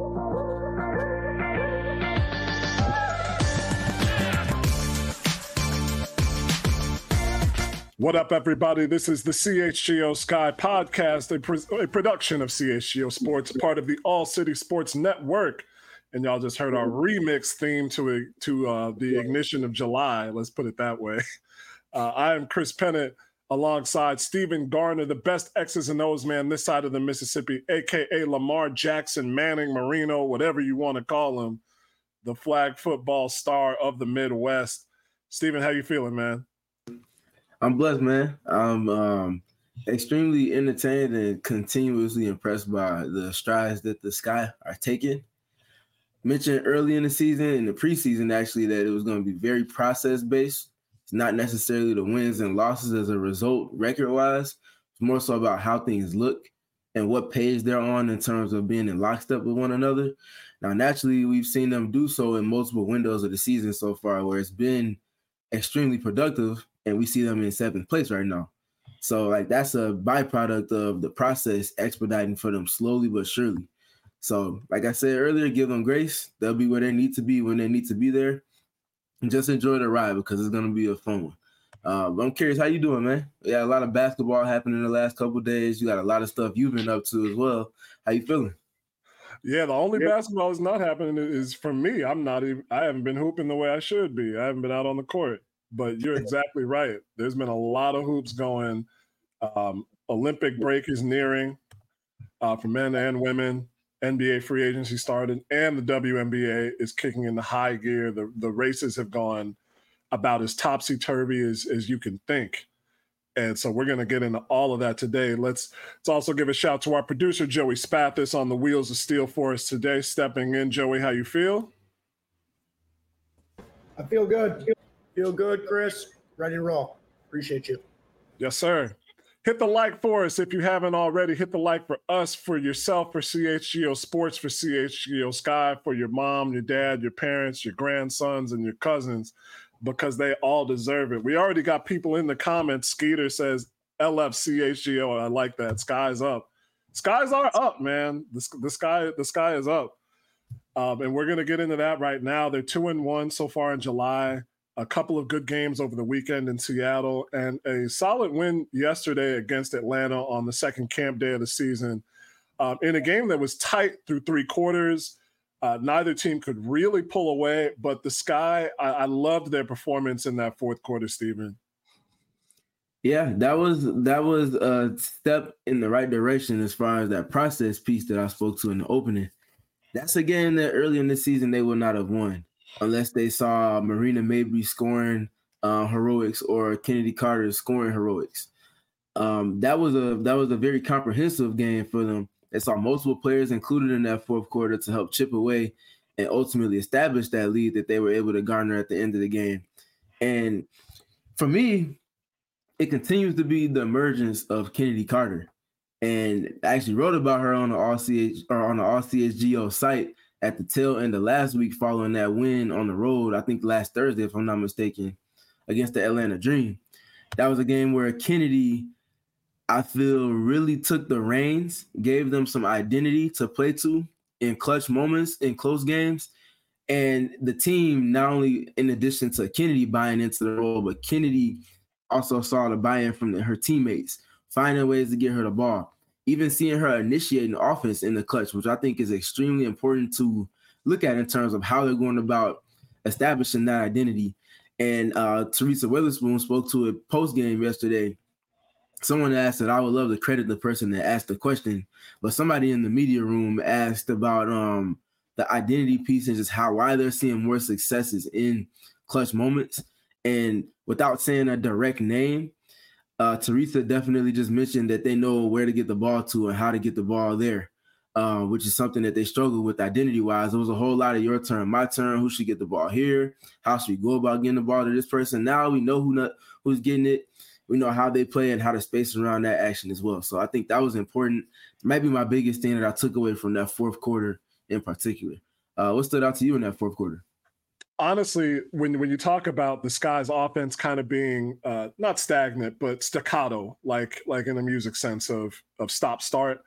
What up, everybody? This is the CHGO Sky podcast, a production of CHGO Sports, part of the All City Sports Network. And y'all just heard our remix theme to the Ignition of July. Let's put it that way. I am Chris Pennant, alongside Stephen Garner, the best X's and O's man this side of the Mississippi, a.k.a. Lamar Jackson, Manning, Marino, whatever you want to call him, the flag football star of the Midwest. Stephen, how you feeling, man? I'm blessed, man. I'm extremely entertained and continuously impressed by the strides that the Sky are taking. Mentioned early in the season, in the preseason, actually, that it was going to be very process-based. It's not necessarily the wins and losses as a result record-wise. It's more so about how things look and what page they're on in terms of being in lockstep with one another. Now, naturally, we've seen them do so in multiple windows of the season so far, where it's been extremely productive, and we see them in 7th place right now. So, that's a byproduct of the process expediting for them slowly but surely. So, like I said earlier, give them grace. They'll be where they need to be when they need to be there. And just enjoy the ride because it's going to be a fun one. But I'm curious, how you doing, man? We got a lot of basketball happening in the last couple of days. You got a lot of stuff you've been up to as well. How you feeling? Yeah, the only basketball that's not happening is for me. I haven't been hooping the way I should be. I haven't been out on the court. But you're exactly right. There's been a lot of hoops going. Olympic break is nearing for men and women. NBA free agency started, and the WNBA is kicking into high gear. The races have gone about as topsy-turvy as you can think. And so we're going to get into all of that today. Let's also give a shout to our producer, Joey Spathis, on the wheels of steel for us today. Stepping in, Joey, how you feel? I feel good. Feel good, Chris. Ready to roll. Appreciate you. Yes, sir. Hit the like for us if you haven't already. Hit the like for us, for yourself, for CHGO Sports, for CHGO Sky, for your mom, your dad, your parents, your grandsons, and your cousins, because they all deserve it. We already got people in the comments. Skeeter says, LFCHGO. I like that. Sky's up. Skies are up, man. The sky is up. And we're going to get into that right now. They're 2-1 so far in July. A couple of good games over the weekend in Seattle, and a solid win yesterday against Atlanta on the second camp day of the season. In a game that was tight through 3 quarters, neither team could really pull away, but the Sky, I loved their performance in that 4th quarter, Stephen. Yeah, that was a step in the right direction as far as that process piece that I spoke to in the opening. That's a game that early in the season they would not have won unless they saw Marina Mabrey scoring heroics or Kennedy Carter scoring heroics. That was a very comprehensive game for them. They saw multiple players included in that 4th quarter to help chip away and ultimately establish that lead that they were able to garner at the end of the game. And for me, it continues to be the emergence of Kennedy Carter. And I actually wrote about her on the CHGO site at the tail end of last week following that win on the road, I think last Thursday, if I'm not mistaken, against the Atlanta Dream. That was a game where Kennedy, I feel, really took the reins, gave them some identity to play to in clutch moments, in close games. And the team, not only in addition to Kennedy buying into the role, but Kennedy also saw the buy-in from her teammates, finding ways to get her the ball. Even seeing her initiating offense in the clutch, which I think is extremely important to look at in terms of how they're going about establishing that identity. And Teresa Witherspoon spoke to it post-game yesterday. Someone asked that I would love to credit the person that asked the question, but somebody in the media room asked about the identity piece and just why they're seeing more successes in clutch moments. And without saying a direct name, Teresa definitely just mentioned that they know where to get the ball to and how to get the ball there, which is something that they struggle with identity-wise. It was a whole lot of your turn, my turn, who should get the ball here, how should we go about getting the ball to this person. Now we know who's getting it. We know how they play and how to space around that action as well. So I think that was important. Maybe my biggest thing that I took away from that 4th quarter in particular. What stood out to you in that 4th quarter? Honestly, when you talk about the Sky's offense kind of being not stagnant, but staccato, like in the music sense of stop-start,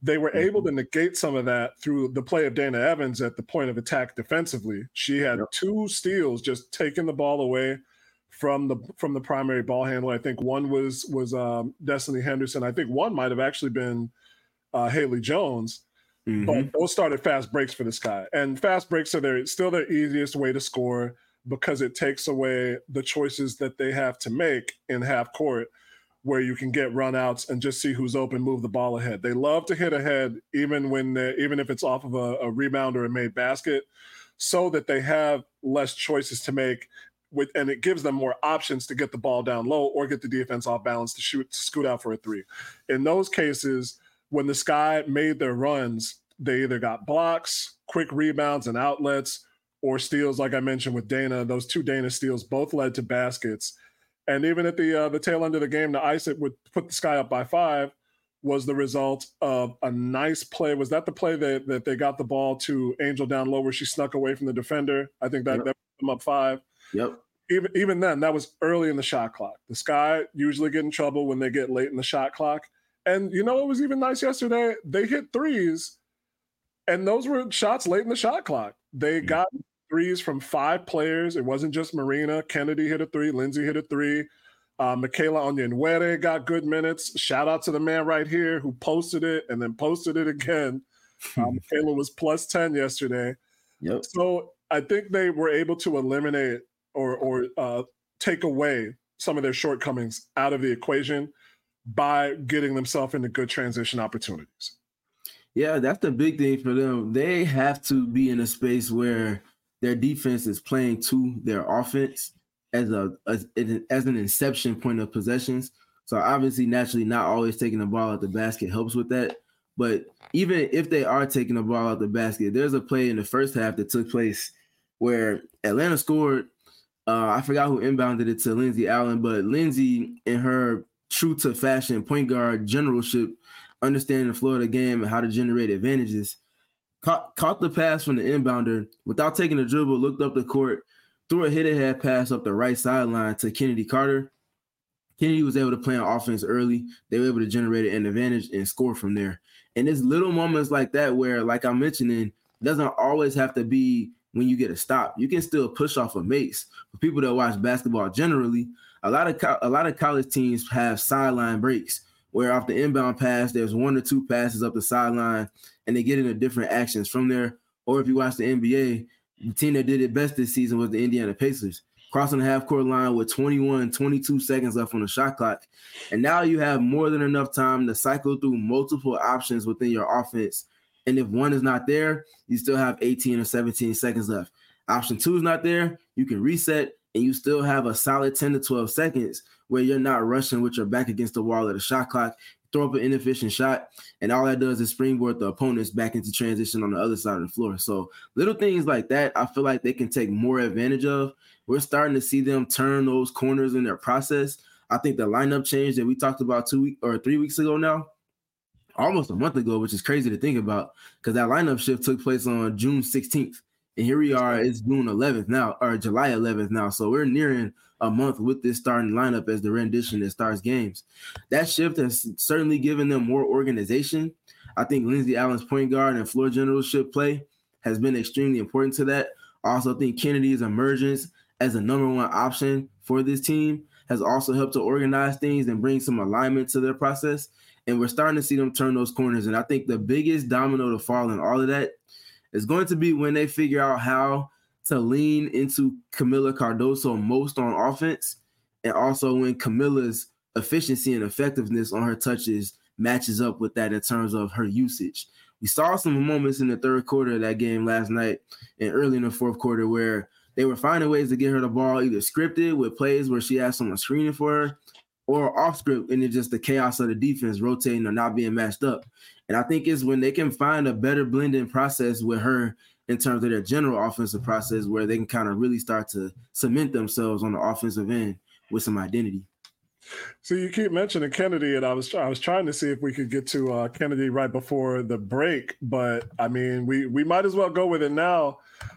they were able to negate some of that through the play of Dana Evans at the point of attack defensively. She had 2 steals, just taking the ball away from the primary ball handler. I think one was Destiny Henderson. I think one might have actually been Haley Jones. But those started fast breaks for this guy. And fast breaks are still their easiest way to score because it takes away the choices that they have to make in half court, where you can get runouts and just see who's open, move the ball ahead. They love to hit ahead, even if it's off of a rebound or a made basket, so that they have less choices to make, and it gives them more options to get the ball down low or get the defense off balance to scoot out for a 3. In those cases, when the Sky made their runs, they either got blocks, quick rebounds and outlets, or steals, like I mentioned with Dana. Those 2 Dana steals both led to baskets. And even at the tail end of the game, to ice it would put the Sky up by 5 was the result of a nice play. Was that the play that they got the ball to Angel down low where she snuck away from the defender? I think that put them up 5. Yep. Even then, that was early in the shot clock. The Sky usually get in trouble when they get late in the shot clock. And it was even nice yesterday. They hit 3s, and those were shots late in the shot clock. They got 3s from 5 players. It wasn't just Marina. Kennedy hit a 3. Lindsay hit a 3. Michaela Onyenwere got good minutes. Shout out to the man right here who posted it and then posted it again. Michaela was plus 10 yesterday. Yep. So I think they were able to eliminate or take away some of their shortcomings out of the equation by getting themselves into good transition opportunities. Yeah, that's the big thing for them. They have to be in a space where their defense is playing to their offense as an inception point of possessions. So obviously, naturally, not always taking the ball out the basket helps with that. But even if they are taking the ball out the basket, there's a play in the first half that took place where Atlanta scored. I forgot who inbounded it to Lindsay Allen, but Lindsay, in her true to fashion point guard generalship, understanding the flow of the game and how to generate advantages, caught the pass from the inbounder without taking a dribble, looked up the court, threw a hit-ahead pass up the right sideline to Kennedy Carter. Kennedy was able to play on offense early. They were able to generate an advantage and score from there. And it's little moments like that where, like I'm mentioning, it doesn't always have to be when you get a stop. You can still push off a mace. For people that watch basketball generally, a lot of college teams have sideline breaks where off the inbound pass, there's 1 or 2 passes up the sideline and they get into different actions from there. Or if you watch the NBA, the team that did it best this season was the Indiana Pacers, crossing the half-court line with 22 seconds left on the shot clock. And now you have more than enough time to cycle through multiple options within your offense. And if one is not there, you still have 18 or 17 seconds left. Option 2 is not there, you can reset, and you still have a solid 10 to 12 seconds where you're not rushing with your back against the wall of the shot clock, throw up an inefficient shot, and all that does is springboard the opponents back into transition on the other side of the floor. So little things like that, I feel like they can take more advantage of. We're starting to see them turn those corners in their process. I think the lineup change that we talked about 3 weeks ago now, almost a month ago, which is crazy to think about because that lineup shift took place on June 16th. And here we are, it's June 11th now, or July 11th now. So we're nearing a month with this starting lineup as the rendition that starts games. That shift has certainly given them more organization. I think Lindsay Allen's point guard and floor generalship play has been extremely important to that. I also think Kennedy's emergence as a number 1 option for this team has also helped to organize things and bring some alignment to their process. And we're starting to see them turn those corners. And I think the biggest domino to fall in all of that is going to be when they figure out how to lean into Camila Cardoso most on offense, and also when Camila's efficiency and effectiveness on her touches matches up with that in terms of her usage. We saw some moments in the third quarter of that game last night and early in the fourth quarter where they were finding ways to get her the ball either scripted with plays where she has someone screening for her, or off script, and it's just the chaos of the defense rotating or not being matched up. And I think it's when they can find a better blending process with her in terms of their general offensive process where they can kind of really start to cement themselves on the offensive end with some identity. So you keep mentioning Kennedy, and I was trying to see if we could get to Kennedy right before the break, but I mean, we might as well go with it now.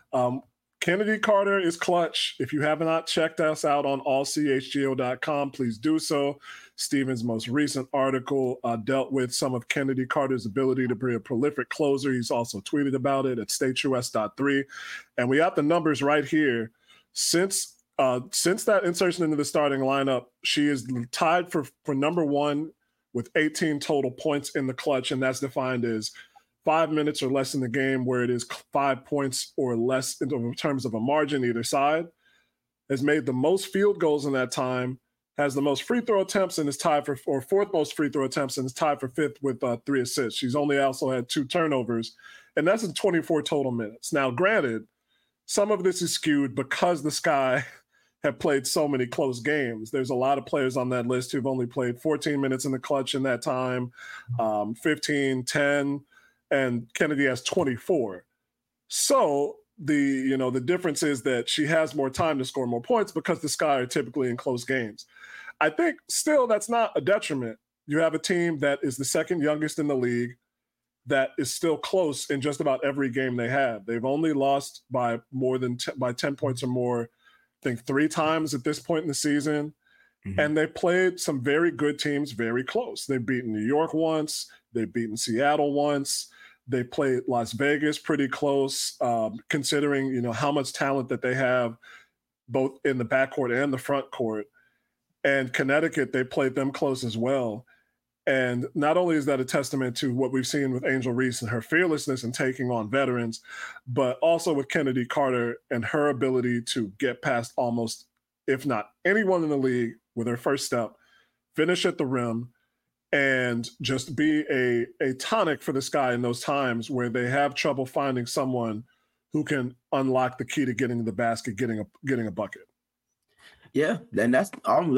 Kennedy Carter is clutch. If you have not checked us out on allchgo.com, please do so. Stevens' most recent article dealt with some of Kennedy Carter's ability to be a prolific closer. He's also tweeted about it at StateUS.3. And we have the numbers right here. Since that insertion into the starting lineup, she is tied for number one with 18 total points in the clutch, and that's defined as 5 minutes or less in the game where it is 5 points or less in terms of a margin either side, has made the most field goals in that time, has the most free throw attempts and is tied for, or fourth most free throw attempts and is tied for fifth with 3 assists. She's only also had 2 turnovers, and that's in 24 total minutes. Now, granted, some of this is skewed because the Sky have played so many close games. There's a lot of players on that list who've only played 14 minutes in the clutch in that time, 15, 10, and Kennedy has 24. So the difference is that she has more time to score more points because the Sky are typically in close games. I think still that's not a detriment. You have a team that is the second youngest in the league that is still close in just about every game they have. They've only lost by more than by 10 points or more, I think 3 times at this point in the season. Mm-hmm. And they played some very good teams very close. They've beaten New York once. They've beaten Seattle once. They played Las Vegas pretty close, considering, how much talent that they have both in the backcourt and the front court. And Connecticut, they played them close as well. And not only is that a testament to what we've seen with Angel Reese and her fearlessness in taking on veterans, but also with Kennedy Carter and her ability to get past almost, if not anyone in the league with her first step, finish at the rim, and just be a tonic for the Sky in those times where they have trouble finding someone who can unlock the key to getting to the basket, getting a bucket. Yeah, and that's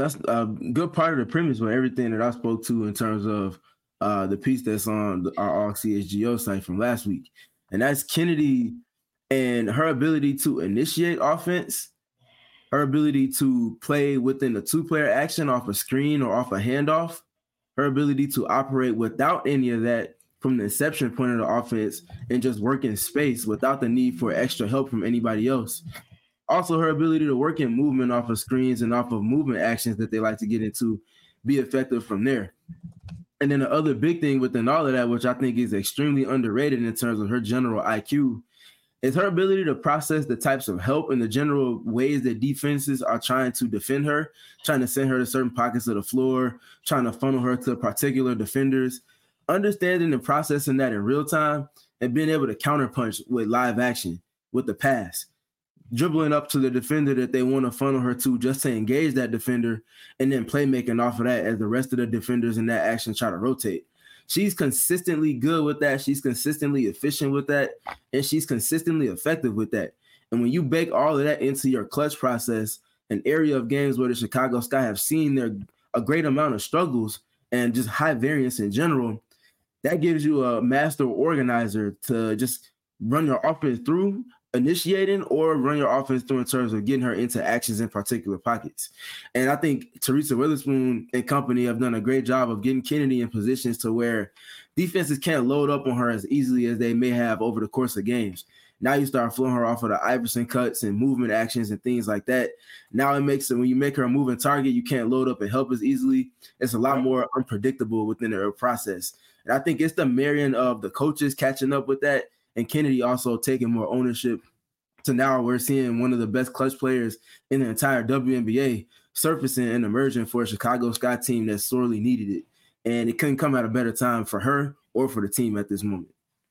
a good part of the premise with everything that I spoke to in terms of the piece that's on our CHGO site from last week. And that's Kennedy and her ability to initiate offense, her ability to play within a 2-player action off a screen or off a handoff, her ability to operate without any of that from the inception point of the offense and just work in space without the need for extra help from anybody else. Also, her ability to work in movement off of screens and off of movement actions that they like to get into, be effective from there. And then the other big thing within all of that, which I think is extremely underrated in terms of her general IQ, is her ability to process the types of help and the general ways that defenses are trying to defend her, trying to send her to certain pockets of the floor, trying to funnel her to particular defenders, understanding and processing that in real time and being able to counterpunch with live action with the pass, dribbling up to the defender that they want to funnel her to just to engage that defender, and then playmaking off of that as the rest of the defenders in that action try to rotate. She's consistently good with that. She's consistently efficient with that. And she's consistently effective with that. And when you bake all of that into your clutch process, an area of games where the Chicago Sky have seen a great amount of struggles and just high variance in general, that gives you a master organizer to just run your offense through, initiating, or run your offense through in terms of getting her into actions in particular pockets. And I think Teresa Witherspoon and company have done a great job of getting Kennedy in positions to where defenses can't load up on her as easily as they may have over the course of games. Now you start flowing her off of the Iverson cuts and movement actions and things like that. Now it makes it, when you make her a moving target, you can't load up and help as easily. It's a lot more unpredictable within her process. And I think it's the marrying of the coaches catching up with that, and Kennedy also taking more ownership, to now we're seeing one of the best clutch players in the entire WNBA surfacing and emerging for a Chicago Sky team that sorely needed it. And it couldn't come at a better time for her or for the team at this moment.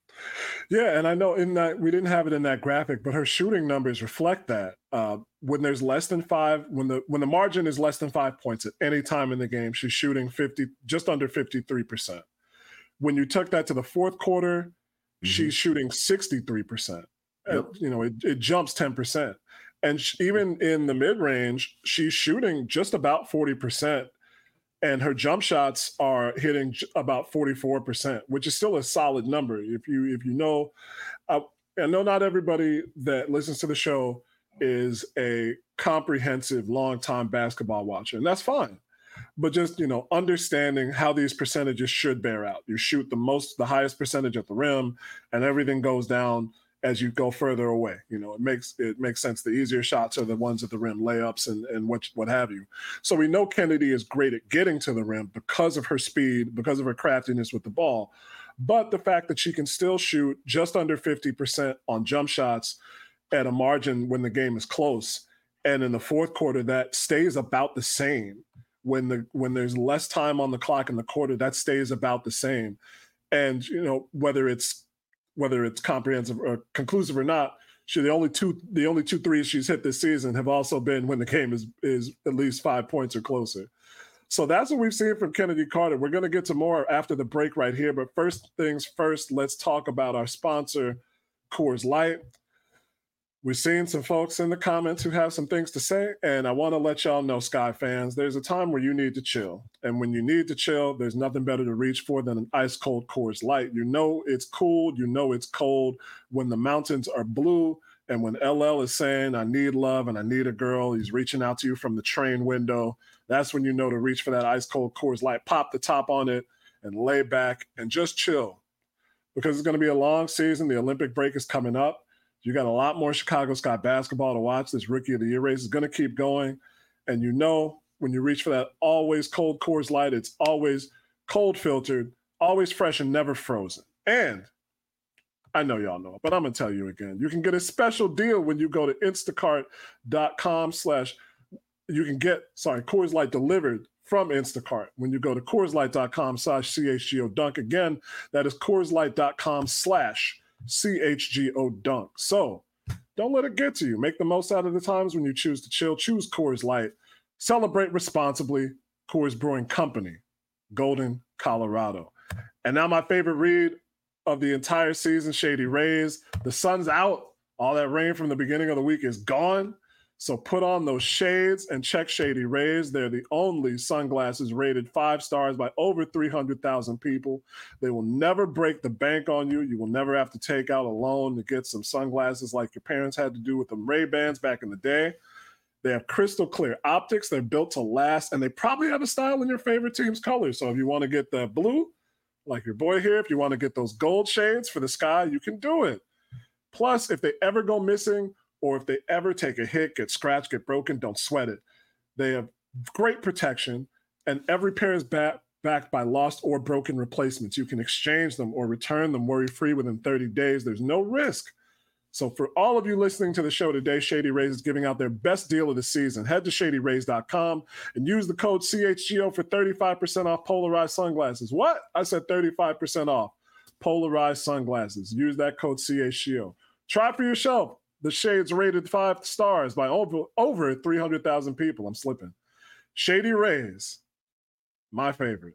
Yeah, and I know in that we didn't have it in that graphic, but her shooting numbers reflect that. When there's less than 5, when the margin is less than 5 points at any time in the game, she's shooting just under 53%. When you took that to the fourth quarter, she's shooting 63%. Yep. It jumps 10%. And even in the mid-range, she's shooting just about 40%. And her jump shots are hitting about 44%, which is still a solid number. If you know, I know not everybody that listens to the show is a comprehensive, long-time basketball watcher, and that's fine. But just, understanding how these percentages should bear out. You shoot the highest percentage at the rim, and everything goes down as you go further away. It makes sense. The easier shots are the ones at the rim, layups and what have you. So we know Kennedy is great at getting to the rim because of her speed, because of her craftiness with the ball. But the fact that she can still shoot just under 50% on jump shots at a margin when the game is close, and in the fourth quarter that stays about the same. When there's less time on the clock in the quarter, that stays about the same. And whether it's comprehensive or conclusive or not, the only two threes she's hit this season have also been when the game is at least 5 points or closer. So that's what we've seen from Kennedy Carter. We're going to get to more after the break right here. But first things first, let's talk about our sponsor, Coors Light. We're seeing some folks in the comments who have some things to say, and I want to let y'all know, Sky fans, there's a time where you need to chill. And when you need to chill, there's nothing better to reach for than an ice-cold Coors Light. It's cool. It's cold when the mountains are blue and when LL is saying, I need love and I need a girl. He's reaching out to you from the train window. That's when you know to reach for that ice-cold Coors Light, pop the top on it, and lay back and just chill. Because it's going to be a long season. The Olympic break is coming up. You got a lot more Chicago Sky basketball to watch. This Rookie of the Year race is going to keep going. And when you reach for that always cold Coors Light, it's always cold filtered, always fresh and never frozen. And I know y'all know, but I'm going to tell you again. You can get a special deal when you go to Instacart.com/ you can get, Coors Light delivered from Instacart. When you go to CoorsLight.com/CHGO Dunk. Again, that is CoorsLight.com/CHGO Dunk. So don't let it get to you. Make the most out of the times when you choose to chill. Choose Coors Light. Celebrate responsibly. Coors Brewing Company, Golden, Colorado. And now my favorite read of the entire season, Shady Rays. The sun's out. All that rain from the beginning of the week is gone. So put on those shades and check Shady Rays. They're the only sunglasses rated 5 stars by over 300,000 people. They will never break the bank on you. You will never have to take out a loan to get some sunglasses like your parents had to do with them Ray-Bans back in the day. They have crystal clear optics. They're built to last, and they probably have a style in your favorite team's colors. So if you want to get the blue, like your boy here, if you want to get those gold shades for the sky, you can do it. Plus, if they ever go missing, or if they ever take a hit, get scratched, get broken, don't sweat it. They have great protection, and every pair is backed by lost or broken replacements. You can exchange them or return them worry-free within 30 days. There's no risk. So for all of you listening to the show today, Shady Rays is giving out their best deal of the season. Head to ShadyRays.com and use the code CHGO for 35% off polarized sunglasses. What? I said 35% off polarized sunglasses. Use that code CHGO. Try for yourself. The shades rated 5 stars by over 300,000 people. I'm slipping. Shady Rays, my favorite.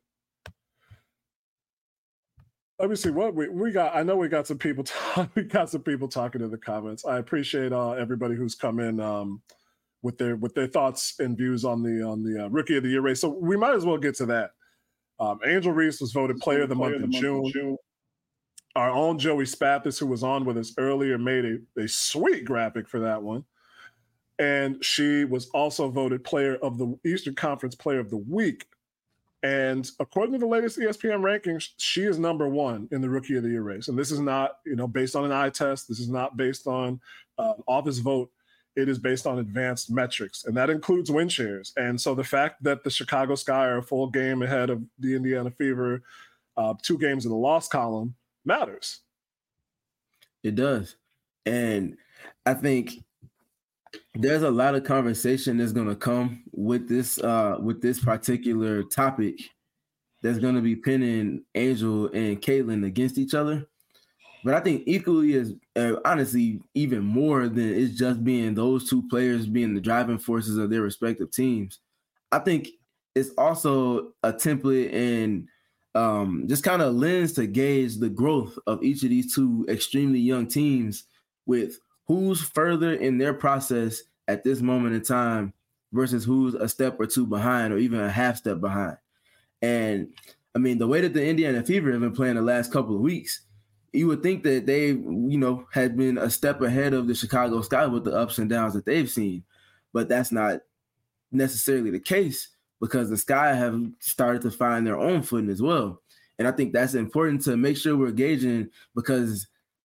Let me see what we got. I know we got some people. We got some people talking in the comments. I appreciate everybody who's come in with their thoughts and views on the Rookie of the Year race. So we might as well get to that. Angel Reese was voted Player of the Month in June. Our own Joey Spathis, who was on with us earlier, made a sweet graphic for that one. And she was also voted Player of the Eastern Conference Player of the Week. And according to the latest ESPN rankings, she is number 1 in the Rookie of the Year race. And this is not, based on an eye test. This is not based on office vote. It is based on advanced metrics, and that includes win shares. And so the fact that the Chicago Sky are a full game ahead of the Indiana Fever, 2 games in the loss column, matters. It does. And I think there's a lot of conversation that's going to come with this particular topic that's going to be pinning Angel and Caitlin against each other. But I think equally as honestly, even more than it's just being those 2 players being the driving forces of their respective teams. I think it's also a template and just kind of lens to gauge the growth of each of these 2 extremely young teams with who's further in their process at this moment in time versus who's a step or 2 behind or even a half step behind. And I mean, the way that the Indiana Fever have been playing the last couple of weeks, you would think that they, had been a step ahead of the Chicago Sky with the ups and downs that they've seen. But that's not necessarily the case because the Sky have started to find their own footing as well. And I think that's important to make sure we're gauging because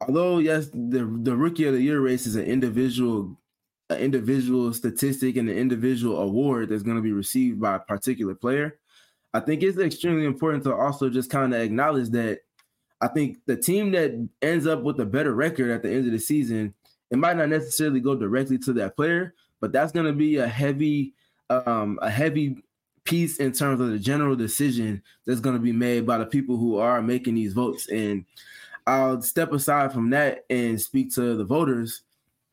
although yes, the Rookie of the Year race is an individual statistic and an individual award that's going to be received by a particular player. I think it's extremely important to also just kind of acknowledge that I think the team that ends up with a better record at the end of the season, it might not necessarily go directly to that player, but that's going to be a heavy piece in terms of the general decision that's going to be made by the people who are making these votes. And I'll step aside from that and speak to the voters.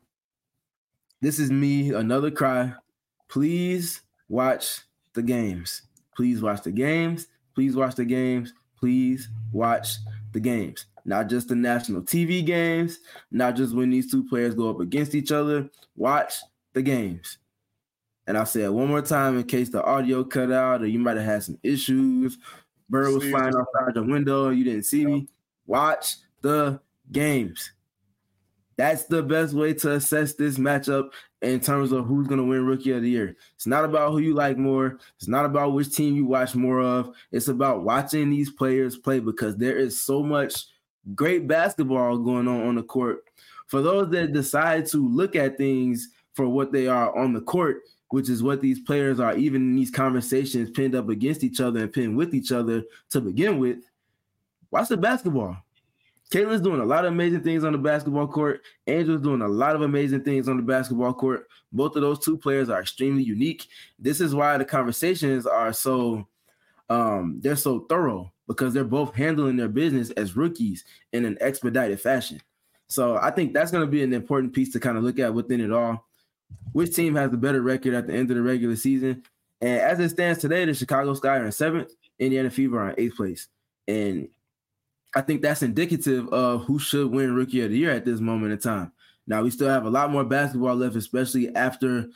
This is me, another cry. Please watch the games. Please watch the games. Please watch the games. Please watch the games. Not just the national TV games, not just when these two players go up against each other. Watch the games. And I'll say it one more time in case the audio cut out or you might have had some issues. Bird was flying outside the window and you didn't see me. Watch the games. That's the best way to assess this matchup in terms of who's going to win Rookie of the Year. It's not about who you like more. It's not about which team you watch more of. It's about watching these players play because there is so much great basketball going on the court. For those that decide to look at things for what they are on the court, which is what these players are, even in these conversations pinned up against each other and pinned with each other to begin with, watch the basketball. Caitlin's doing a lot of amazing things on the basketball court. Angel's doing a lot of amazing things on the basketball court. Both of those two players are extremely unique. This is why the conversations are so they're so thorough because they're both handling their business as rookies in an expedited fashion. So I think that's going to be an important piece to kind of look at within it all. Which team has the better record at the end of the regular season? And as it stands today, the Chicago Sky are in 7th, Indiana Fever are in 8th place. And I think that's indicative of who should win Rookie of the Year at this moment in time. Now we still have a lot more basketball left, especially after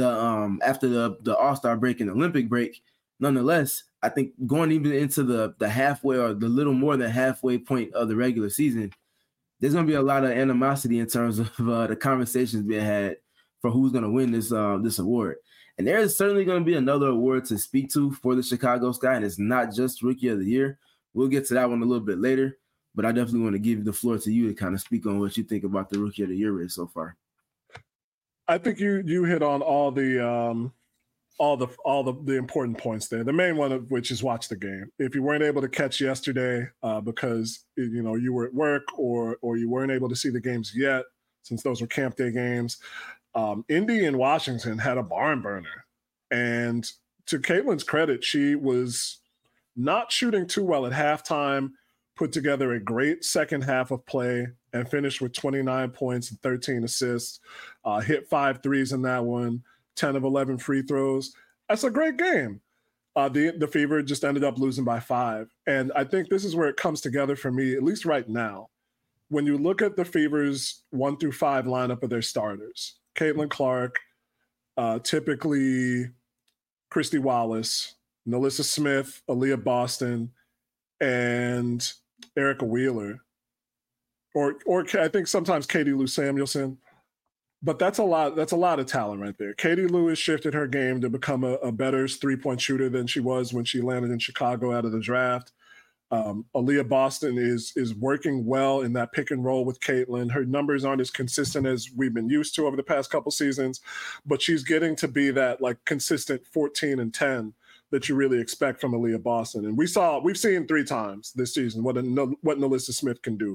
the All-Star break and Olympic break. Nonetheless, I think going even into the halfway or the little more than halfway point of the regular season, there's going to be a lot of animosity in terms of the conversations being had for who's going to win this award. And there is certainly going to be another award to speak to for the Chicago Sky, and it's not just Rookie of the Year. We'll get to that one a little bit later, but I definitely want to give the floor to you to kind of speak on what you think about the Rookie of the Year race so far. I think you hit on all the important points there. The main one of which is watch the game. If you weren't able to catch yesterday because you were at work or you weren't able to see the games yet, since those were camp day games, Indy and Washington had a barn burner. And to Caitlin's credit, she was not shooting too well at halftime, put together a great second half of play, and finished with 29 points and 13 assists, hit 5 threes in that one, 10 of 11 free throws. That's a great game. The Fever just ended up losing by 5. And I think this is where it comes together for me, at least right now. When you look at the Fever's 1 through 5 lineup of their starters, Caitlin Clark, typically Christy Wallace, Nalissa Smith, Aaliyah Boston, and Erica Wheeler, or I think sometimes Katie Lou Samuelson. But that's a lot of talent right there. Katie Lou has shifted her game to become a better 3-point shooter than she was when she landed in Chicago out of the draft. Aaliyah Boston is working well in that pick and roll with Caitlin. Her numbers aren't as consistent as we've been used to over the past couple seasons, but she's getting to be that like consistent 14 and 10 that you really expect from Aaliyah Boston. And we've seen 3 times this season what Nalissa Smith can do.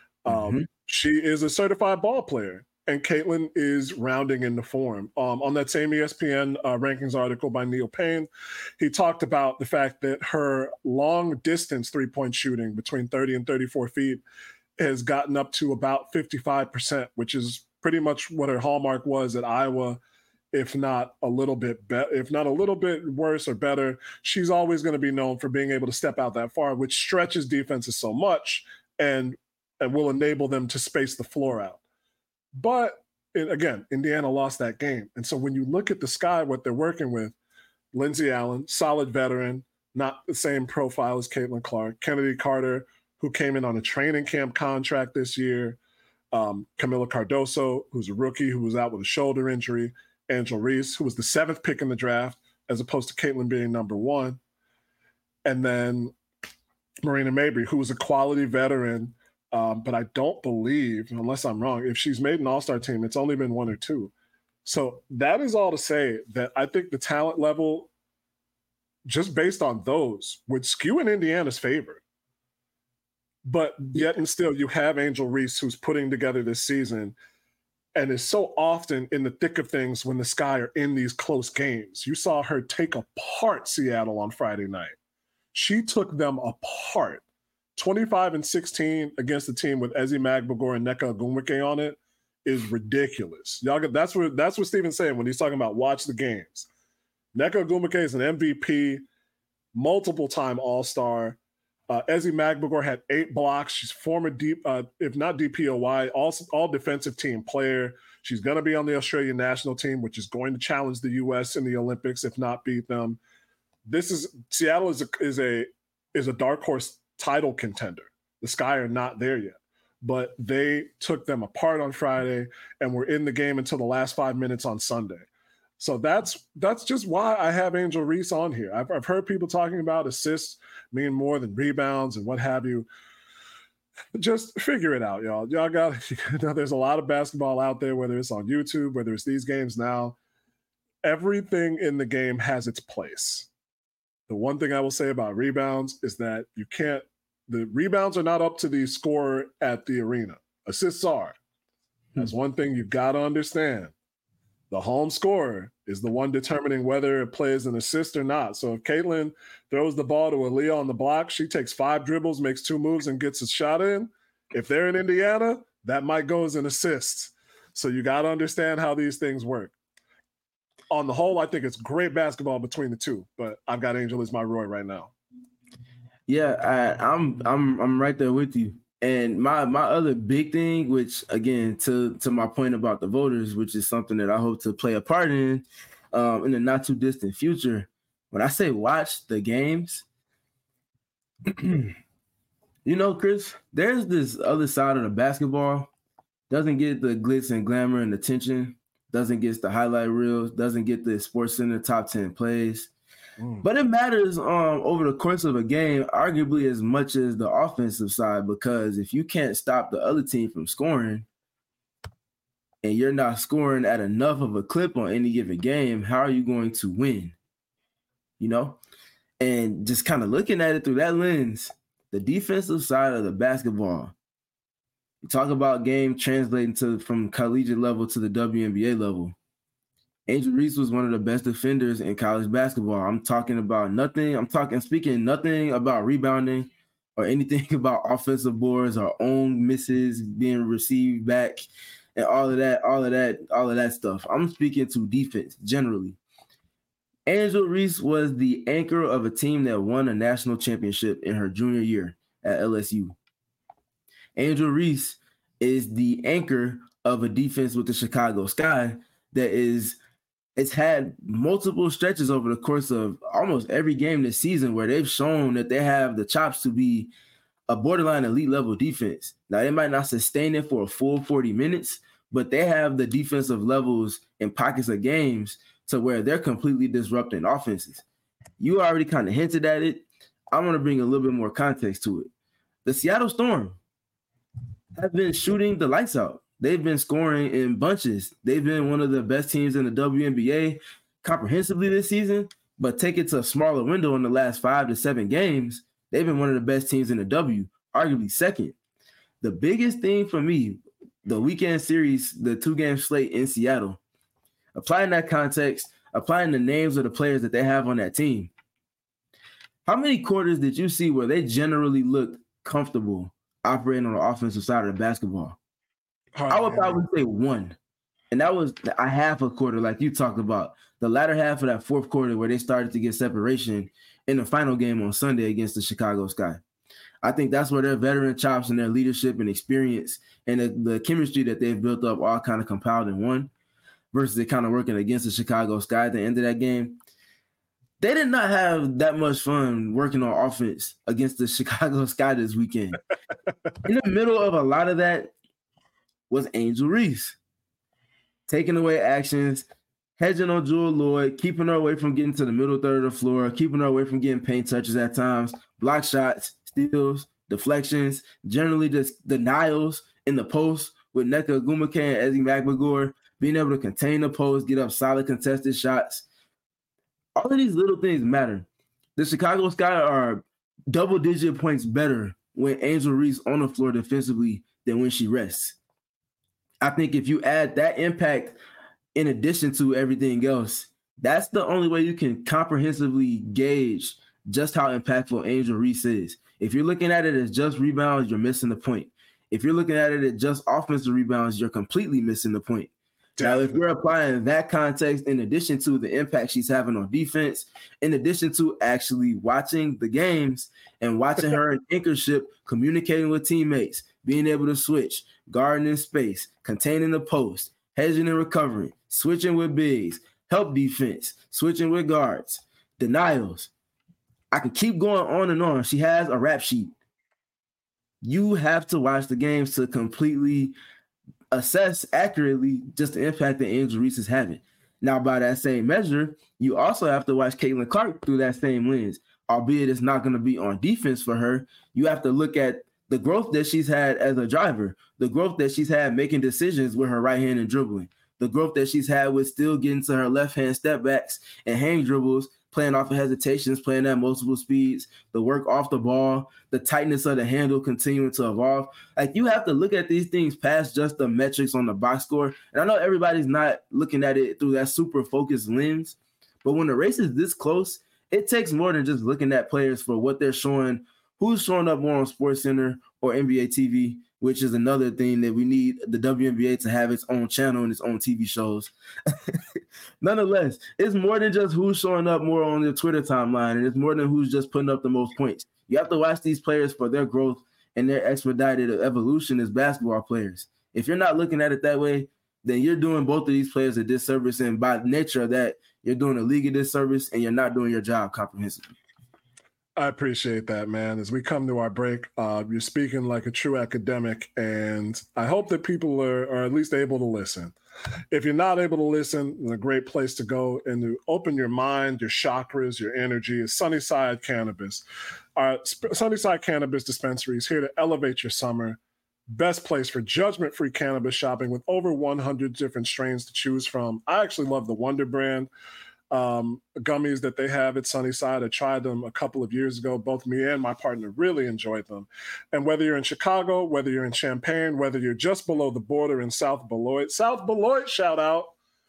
She is a certified ball player, and Caitlin is rounding into form. On that same ESPN rankings article by Neil Payne, he talked about the fact that her long distance 3-point shooting between 30 and 34 feet has gotten up to about 55%, which is pretty much what her hallmark was at Iowa. If not a little bit worse or better. She's always going to be known for being able to step out that far, which stretches defenses so much and will enable them to space the floor out. But again, Indiana lost that game. And so when you look at the Sky, what they're working with, Lindsey Allen, solid veteran, not the same profile as Caitlin Clark, Kennedy Carter, who came in on a training camp contract this year, Camila Cardoso, who's a rookie who was out with a shoulder injury, Angel Reese, who was the 7th pick in the draft, as opposed to Caitlin being number 1. And then Marina Mabrey, who was a quality veteran But I don't believe, unless I'm wrong, if she's made an all-star team, it's only been 1 or 2. So that is all to say that I think the talent level, just based on those, would skew in Indiana's favor. But yet and still, you have Angel Reese, who's putting together this season and is so often in the thick of things when the Sky are in these close games. You saw her take apart Seattle on Friday night. She took them apart. 25-16 against a team with Ezi Magbegor and Nneka Ogwumike on it is ridiculous. Y'all get, that's what Steven's saying when he's talking about watch the games. Nneka Ogwumike is an MVP, multiple-time All-Star. Ezi Magbegor had 8 blocks. She's former, if not DPOY, all defensive team player. She's going to be on the Australian national team, which is going to challenge the U.S. in the Olympics, if not beat them. Seattle is a dark horse title contender. The Sky are not there yet, but they took them apart on Friday and were in the game until the last 5 minutes on Sunday. So that's just why I have Angel Reese on here. I've heard people talking about assists mean more than rebounds and what have you. Just figure it out, y'all. Y'all got, there's a lot of basketball out there, whether it's on YouTube, whether it's these games now. Everything in the game has its place. The one thing I will say about rebounds is that the rebounds are not up to the scorer at the arena. Assists are. That's one thing you've got to understand. The home scorer is the one determining whether it plays an assist or not. So if Caitlin throws the ball to Aaliyah on the block, she takes 5 dribbles, makes 2 moves, and gets a shot in. If they're in Indiana, that might go as an assist. So you got to understand how these things work. On the whole, I think it's great basketball between the two, but I've got Angel as my Roy right now. Yeah, I'm right there with you. And my other big thing, which again to my point about the voters, which is something that I hope to play a part in the not too distant future. When I say watch the games, Chris, there's this other side of the basketball. Doesn't get the glitz and glamour and attention. Doesn't get the highlight reels, doesn't get the SportsCenter top 10 plays. But it matters over the course of a game, arguably as much as the offensive side, because if you can't stop the other team from scoring and you're not scoring at enough of a clip on any given game, how are you going to win? And just kind of looking at it through that lens, the defensive side of the basketball, you talk about game translating from collegiate level to the WNBA level. Angel Reese was one of the best defenders in college basketball. I'm speaking nothing about rebounding or anything about offensive boards or own misses being received back and all of that stuff. I'm speaking to defense generally. Angel Reese was the anchor of a team that won a national championship in her junior year at LSU. Angel Reese is the anchor of a defense with the Chicago Sky it's had multiple stretches over the course of almost every game this season where they've shown that they have the chops to be a borderline elite level defense. Now, they might not sustain it for a full 40 minutes, but they have the defensive levels in pockets of games to where they're completely disrupting offenses. You already kind of hinted at it. I want to bring a little bit more context to it. The Seattle Storm have been shooting the lights out. They've been scoring in bunches. They've been one of the best teams in the WNBA comprehensively this season, but take it to a smaller window in the last 5 to 7 games, they've been one of the best teams in the W, arguably second. The biggest thing for me, the weekend series, the 2-game slate in Seattle, applying that context, applying the names of the players that they have on that team, how many quarters did you see where they generally looked comfortable operating on the offensive side of the basketball? I would probably say 1. And that was a half a quarter, like you talked about. The latter half of that fourth quarter where they started to get separation in the final game on Sunday against the Chicago Sky. I think that's where their veteran chops and their leadership and experience and the chemistry that they've built up all kind of compiled in one versus it kind of working against the Chicago Sky at the end of that game. They did not have that much fun working on offense against the Chicago Sky this weekend. In the middle of a lot of that was Angel Reese, taking away actions, hedging on Jewel Lloyd, keeping her away from getting to the middle third of the floor, keeping her away from getting paint touches at times, block shots, steals, deflections, generally just denials in the post with Nneka Ogwumike and Ezi Magbegor, being able to contain the post, get up solid contested shots. All of these little things matter. The Chicago Sky are double-digit points better when Angel Reese on the floor defensively than when she rests. I think if you add that impact in addition to everything else, that's the only way you can comprehensively gauge just how impactful Angel Reese is. If you're looking at it as just rebounds, you're missing the point. If you're looking at it as just offensive rebounds, you're completely missing the point. Now, if we're applying that context in addition to the impact she's having on defense, in addition to actually watching the games and watching her in anchorship, communicating with teammates, being able to switch, guarding in space, containing the post, hedging and recovering, switching with bigs, help defense, switching with guards, denials. I could keep going on and on. She has a rap sheet. You have to watch the games to completely assess accurately just the impact that Angel Reese is having. Now, by that same measure, you also have to watch Caitlin Clark through that same lens, albeit it's not going to be on defense for her. You have to look at the growth that she's had as a driver, the growth that she's had making decisions with her right hand and dribbling, the growth that she's had with still getting to her left hand step backs and hang dribbles, playing off of hesitations, playing at multiple speeds, the work off the ball, the tightness of the handle continuing to evolve. Like, you have to look at these things past just the metrics on the box score. And I know everybody's not looking at it through that super focused lens, but when the race is this close, it takes more than just looking at players for what they're showing, who's showing up more on SportsCenter or NBA TV, which is another thing that we need the WNBA to have its own channel and its own TV shows. Nonetheless, it's more than just who's showing up more on the Twitter timeline, and it's more than who's just putting up the most points. You have to watch these players for their growth and their expedited evolution as basketball players. If you're not looking at it that way, then you're doing both of these players a disservice, and by nature of that, you're doing a league a disservice, and you're not doing your job comprehensively. I appreciate that, man. As we come to our break, you're speaking like a true academic, and I hope that people are at least able to listen. If you're not able to listen, then a great place to go and to open your mind, your chakras, your energy is Sunnyside Cannabis. Our Sunnyside Cannabis dispensary is here to elevate your summer. Best place for judgment-free cannabis shopping with over 100 different strains to choose from. I actually love the Wonder brand gummies that they have at Sunnyside. I tried them a couple of years ago. Both me and my partner really enjoyed them. And whether you're in Chicago, whether you're in Champaign, whether you're just below the border in South Beloit, shout out,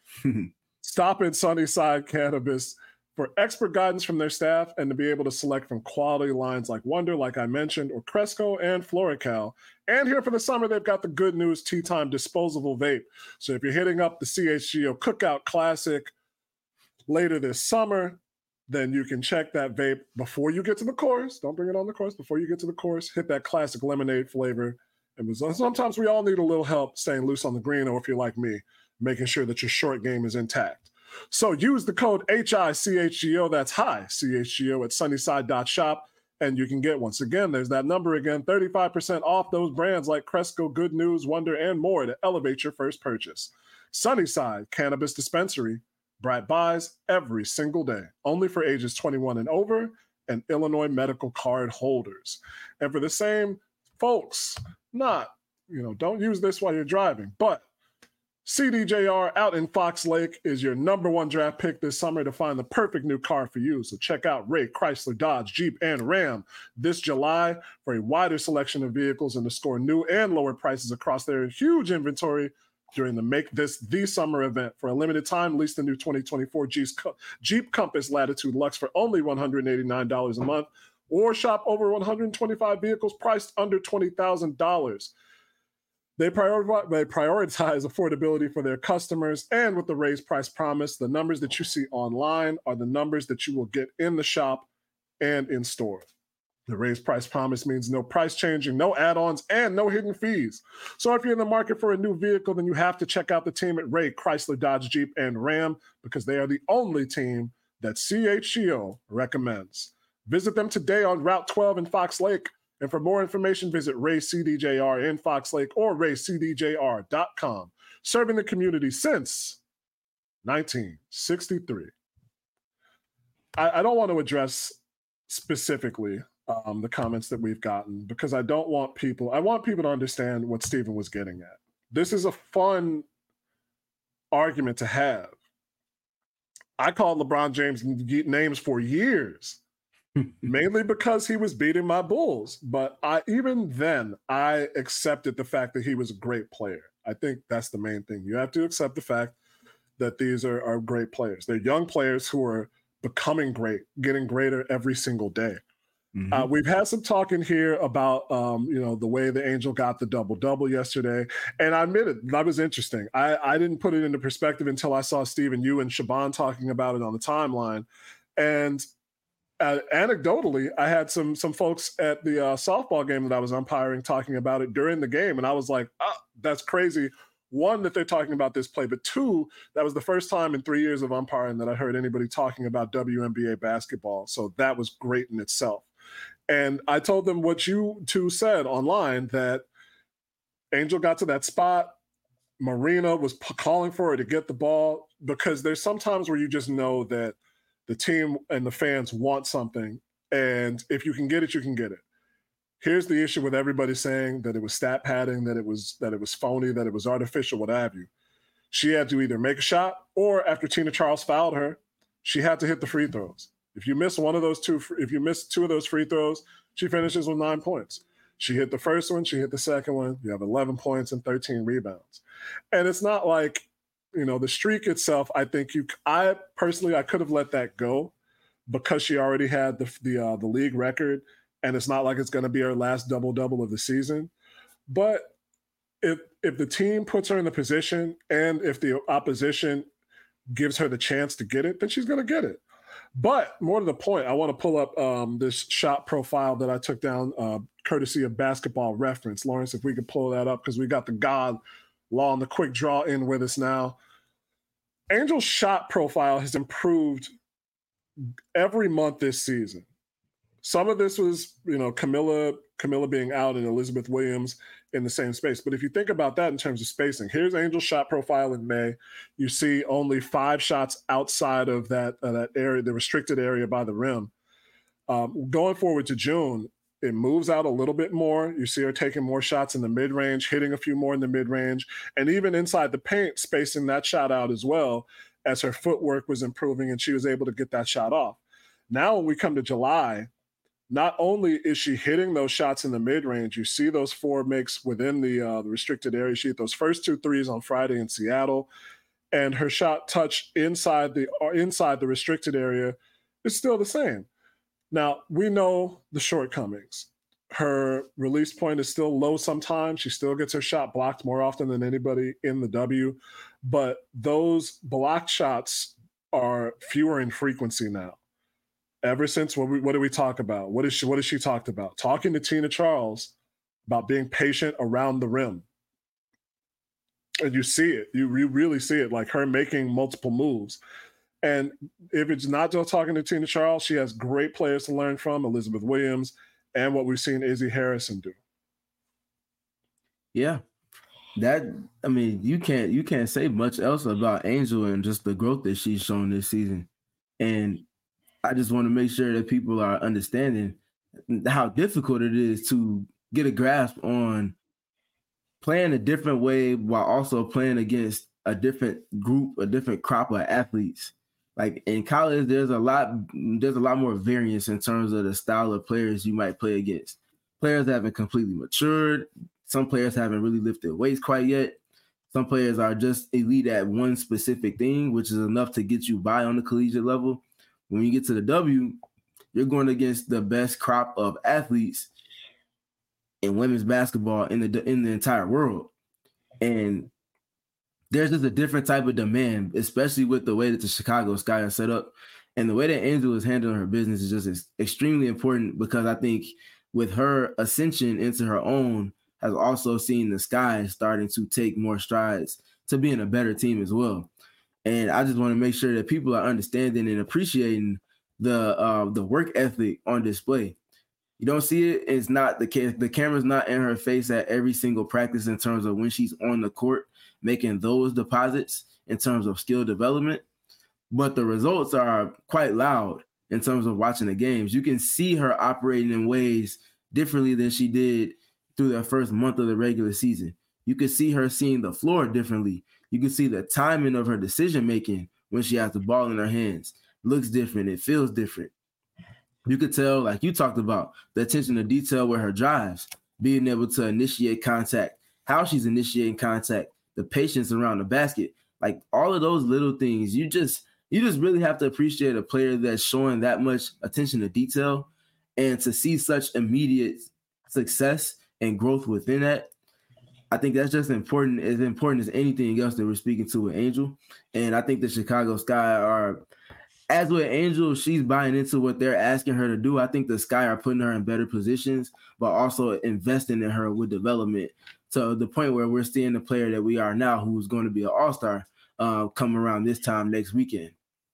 stop at Sunnyside Cannabis for expert guidance from their staff and to be able to select from quality lines like Wonder, like I mentioned, or Cresco and FloraCal. And here for the summer, they've got the Good News Tea Time disposable vape. So if you're hitting up the CHGO Cookout Classic later this summer, then you can check that vape before you get to the course. Don't bring it on the course. Before you get to the course, hit that classic lemonade flavor. And sometimes we all need a little help staying loose on the green, or if you're like me, making sure that your short game is intact. So use the code HICHGO, that's high, CHGO at sunnyside.shop, and you can get, once again, there's that number again, 35% off those brands like Cresco, Good News, Wonder, and more to elevate your first purchase. Sunnyside Cannabis Dispensary. Bright buys every single day, only for ages 21 and over and Illinois medical card holders. And for the same folks, don't use this while you're driving, but CDJR out in Fox Lake is your number one draft pick this summer to find the perfect new car for you. So check out Ray Chrysler, Dodge, Jeep, and Ram this July for a wider selection of vehicles and to score new and lower prices across their huge inventory during the Make This the Summer event. For a limited time, lease the new 2024 Jeep Compass Latitude Luxe for only $189 a month, or shop over 125 vehicles priced under $20,000. They prioritize affordability for their customers, and with the raised price promise, the numbers that you see online are the numbers that you will get in the shop and in store. The raised price promise means no price changing, no add-ons, and no hidden fees. So if you're in the market for a new vehicle, then you have to check out the team at Ray Chrysler, Dodge, Jeep, and Ram, because they are the only team that CHGO recommends. Visit them today on Route 12 in Fox Lake. And for more information, visit Ray CDJR in Fox Lake or raycdjr.com. Serving the community since 1963. I don't want to address specifically the comments that we've gotten, because I want people to understand what Stephen was getting at. This is a fun argument to have. I called LeBron James names for years, mainly because he was beating my Bulls. But even then, I accepted the fact that he was a great player. I think that's the main thing. You have to accept the fact that these are great players. They're young players who are becoming great, getting greater every single day. Mm-hmm. We've had some talking here about, the way the Angel got the double-double yesterday. And I admit it, that was interesting. I didn't put it into perspective until I saw Stephen, you and Shaban talking about it on the timeline. And anecdotally, I had some folks at the softball game that I was umpiring talking about it during the game. And I was like, that's crazy. One, that they're talking about this play, but two, that was the first time in 3 years of umpiring that I heard anybody talking about WNBA basketball. So that was great in itself. And I told them what you two said online, that Angel got to that spot. Marina was calling for her to get the ball, because there's sometimes where you just know that the team and the fans want something. And if you can get it, you can get it. Here's the issue with everybody saying that it was stat padding, that it was phony, that it was artificial, what have you. She had to either make a shot, or after Tina Charles fouled her, she had to hit the free throws. If you miss two of those free throws, she finishes with 9 points. She hit the first one, she hit the second one. You have 11 points and 13 rebounds. And it's not like, the streak itself, I think I could have let that go, because she already had the league record, and it's not like it's going to be her last double-double of the season. But if the team puts her in the position, and if the opposition gives her the chance to get it, then she's going to get it. But more to the point, I want to pull up this shot profile that I took down courtesy of Basketball Reference. Lawrence, if we could pull that up, because we got the God Law and the Quick Draw in with us now. Angel's shot profile has improved every month this season. Some of this was, Camilla being out and Elizabeth Williams in the same space. But if you think about that in terms of spacing, here's Angel's shot profile in May. You see only 5 shots outside of that area, the restricted area by the rim. Going forward to June, it moves out a little bit more. You see her taking more shots in the mid-range, hitting a few more in the mid-range, and even inside the paint, spacing that shot out as well, as her footwork was improving and she was able to get that shot off. Now when we come to July, not only is she hitting those shots in the mid-range, you see those 4 makes within the restricted area. She hit those first 2 threes on Friday in Seattle, and her shot touch inside the restricted area is still the same. Now, we know the shortcomings. Her release point is still low sometimes. She still gets her shot blocked more often than anybody in the W, but those blocked shots are fewer in frequency now. Ever since, what do we talk about? What has she talked about? Talking to Tina Charles about being patient around the rim. And you see it. You really see it, like her making multiple moves. And if it's not just talking to Tina Charles, she has great players to learn from, Elizabeth Williams, and what we've seen Izzy Harrison do. Yeah. You can't say much else about Angel and just the growth that she's shown this season. And I just want to make sure that people are understanding how difficult it is to get a grasp on playing a different way while also playing against a different group, a different crop of athletes. Like in college, there's a lot more variance in terms of the style of players you might play against. Players haven't completely matured. Some players haven't really lifted weights quite yet. Some players are just elite at one specific thing, which is enough to get you by on the collegiate level. When you get to the W, you're going against the best crop of athletes in women's basketball in the entire world. And there's just a different type of demand, especially with the way that the Chicago Sky is set up. And the way that Angel is handling her business is just extremely important, because I think with her ascension into her own has also seen the Sky starting to take more strides to being a better team as well. And I just want to make sure that people are understanding and appreciating the work ethic on display. You don't see it. It's not the camera's not in her face at every single practice in terms of when she's on the court making those deposits in terms of skill development. But the results are quite loud in terms of watching the games. You can see her operating in ways differently than she did through the first month of the regular season. You can see her seeing the floor differently. You can see the timing of her decision-making when she has the ball in her hands. Looks different. It feels different. You could tell, like you talked about, the attention to detail with her drives, being able to initiate contact, how she's initiating contact, the patience around the basket. Like all of those little things, you just really have to appreciate a player that's showing that much attention to detail, and to see such immediate success and growth within that. I think that's just important, as important as anything else that we're speaking to with Angel. And I think the Chicago Sky are, as with Angel, she's buying into what they're asking her to do. I think the Sky are putting her in better positions, but also investing in her with development to the point where we're seeing the player that we are now, who's going to be an all-star, come around this time next weekend.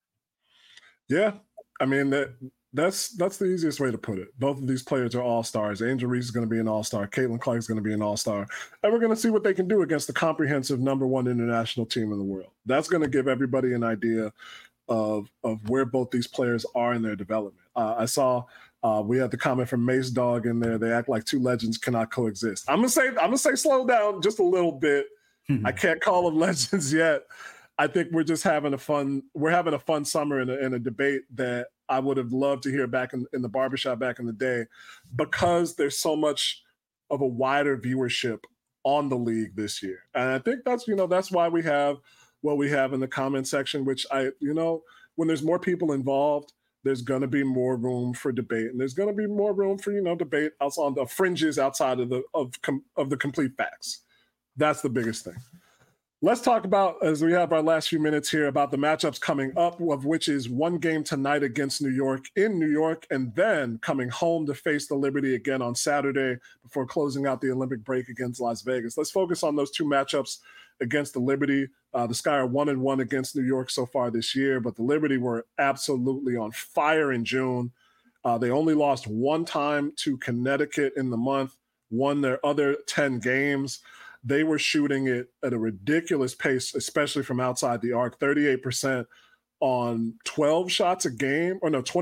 Yeah, I mean, that's the easiest way to put it. Both of these players are all-stars. Angel Reese is going to be an all-star. Caitlin Clark is going to be an all-star. And we're going to see what they can do against the comprehensive #1 international team in the world. That's going to give everybody an idea of where both these players are in their development. I saw we had the comment from Mace Dog in there. They act like two legends cannot coexist. I'm gonna say slow down just a little bit. I can't call them legends yet. I think we're just having a fun summer in a debate that I would have loved to hear back in the barbershop back in the day, because there's so much of a wider viewership on the league this year. And I think that's why we have what we have in the comment section, which when there's more people involved, there's going to be more room for debate, and there's going to be more room for, debate on the fringes outside of the complete facts. That's the biggest thing. Let's talk about, as we have our last few minutes here, about the matchups coming up, of which is one game tonight against New York in New York, and then coming home to face the Liberty again on Saturday before closing out the Olympic break against Las Vegas. Let's focus on those two matchups against the Liberty. The Sky are 1-1 against New York so far this year, but the Liberty were absolutely on fire in June. They only lost one time to Connecticut in the month, won their other 10 games. They were shooting it at a ridiculous pace, especially from outside the arc, 38% on 21 shots a game.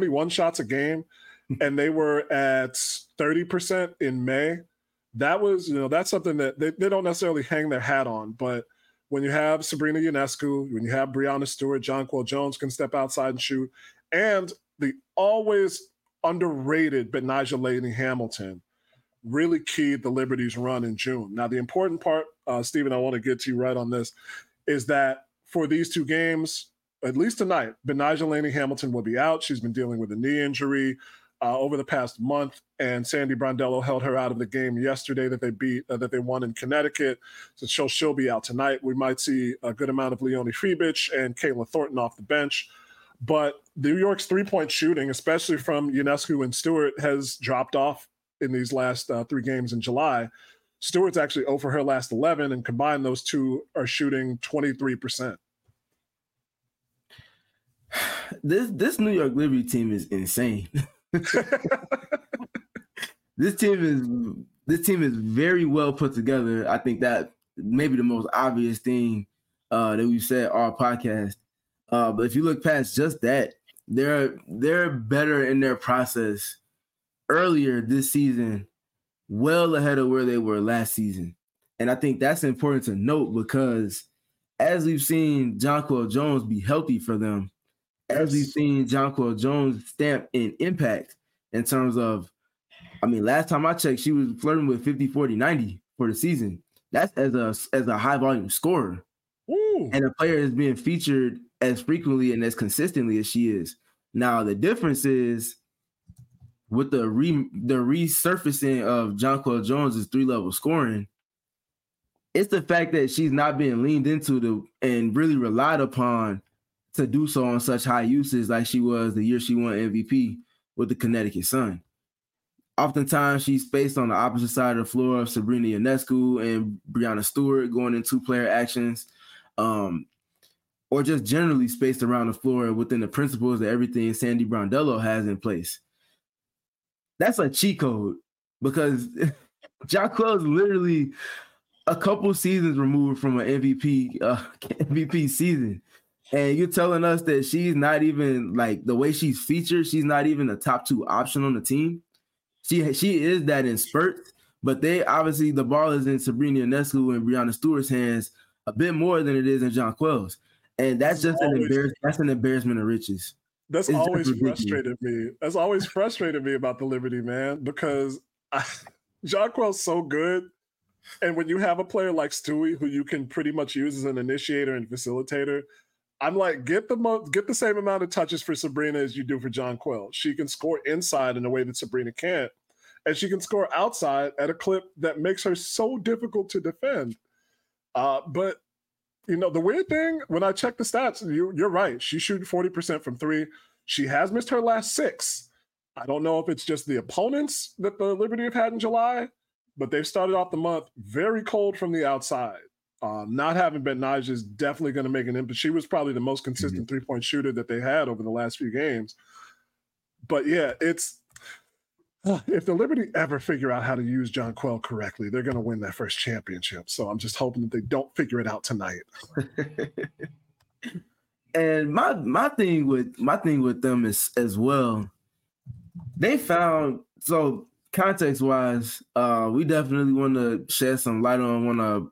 And they were at 30% in May. That was, that's something that they don't necessarily hang their hat on. But when you have Sabrina Ionescu, when you have Breanna Stewart, Jonquel Jones can step outside and shoot, and the always underrated Betnijah Laney-Hamilton really keyed the Liberty's run in June. Now, the important part, Stephen, I want to get to you right on this, is that for these two games, at least tonight, Betnijah Laney-Hamilton will be out. She's been dealing with a knee injury over the past month, and Sandy Brondello held her out of the game yesterday that they won in Connecticut. So she'll be out tonight. We might see a good amount of Leonie Freebich and Kayla Thornton off the bench. But New York's three-point shooting, especially from Ionescu and Stewart, has dropped off in these last 3 games in July. Stewart's actually 0 for her last 11, and combined those two are shooting 23%. This New York Liberty team is insane. This team is very well put together. I think that maybe the most obvious thing that we've said all podcast. But if you look past just that, they're better in their process earlier this season, well ahead of where they were last season. And I think that's important to note, because as we've seen Jonquel Jones be healthy for them, as we've seen Jonquel Jones stamp in impact in terms of, last time I checked, she was flirting with 50, 40, 90 for the season. That's as a high volume scorer. Ooh. And a player is being featured as frequently and as consistently as she is. Now, the difference is, with the resurfacing of Jonquel Jones' 3-level scoring, it's the fact that she's not being leaned into and really relied upon to do so on such high usage like she was the year she won MVP with the Connecticut Sun. Oftentimes, she's spaced on the opposite side of the floor of Sabrina Ionescu and Breanna Stewart going in 2-player actions, or just generally spaced around the floor within the principles of everything Sandy Brondello has in place. That's a cheat code, because Jonquel is literally a couple seasons removed from an MVP season. And you're telling us that she's not even like the way she's featured, she's not even a top 2 option on the team. She is that in spurts, but they obviously the ball is in Sabrina Ionescu and Breanna Stewart's hands a bit more than it is in Jonquel's. And that's just an embarrassment of riches. That's always frustrated me. That's always frustrated me about the Liberty, man, because Jonquel's so good. And when you have a player like Stewie, who you can pretty much use as an initiator and facilitator, I'm like, get the same amount of touches for Sabrina as you do for Jonquel. She can score inside in a way that Sabrina can't. And she can score outside at a clip that makes her so difficult to defend. But, you know, the weird thing, when I check the stats, you're right. She's shooting 40% from 3. She has missed her last 6. I don't know if it's just the opponents that the Liberty have had in July, but they've started off the month very cold from the outside. Not having Ben Nige is definitely going to make an impact. She was probably the most consistent three-point shooter that they had over the last few games. But yeah, it's if the Liberty ever figure out how to use Jonquel correctly, they're going to win that first championship. So I'm just hoping that they don't figure it out tonight. And my thing with them is as well. They found, so context-wise, we definitely want to shed some light on one of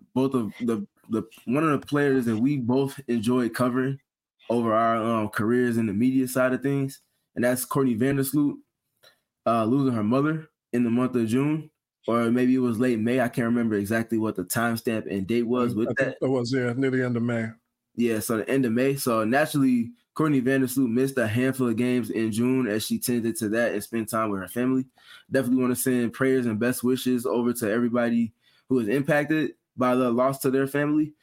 the players that we both enjoyed covering over our careers in the media side of things, and that's Courtney Vandersloot losing her mother in the month of June, or maybe it was late May. I can't remember exactly what the timestamp and date was with that. It was, near the end of May. Yeah, so the end of May. So naturally, Courtney Vandersloot missed a handful of games in June as she tended to that and spent time with her family. Definitely want to send prayers and best wishes over to everybody who was impacted by the loss to their family.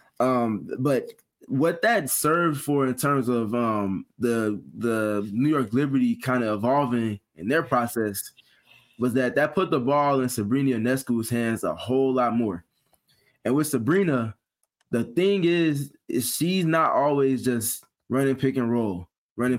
But what that served for in terms of the New York Liberty kind of evolving in their process was that put the ball in Sabrina Ionescu's hands a whole lot more. And with Sabrina, the thing is she's not always just running pick and roll, running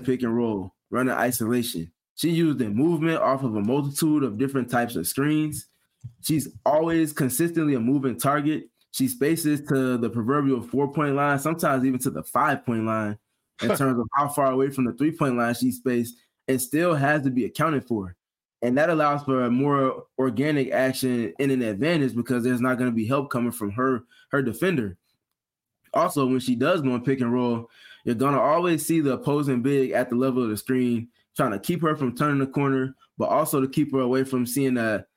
isolation. She used the movement off of a multitude of different types of screens. She's always consistently a moving target. She spaces to the proverbial 4-point line, sometimes even to the 5-point line in terms of how far away from the 3-point line she spaced, and still has to be accounted for. And that allows for a more organic action in an advantage because there's not going to be help coming from her defender. Also, when she does go and pick and roll, you're going to always see the opposing big at the level of the screen, trying to keep her from turning the corner, but also to keep her away from seeing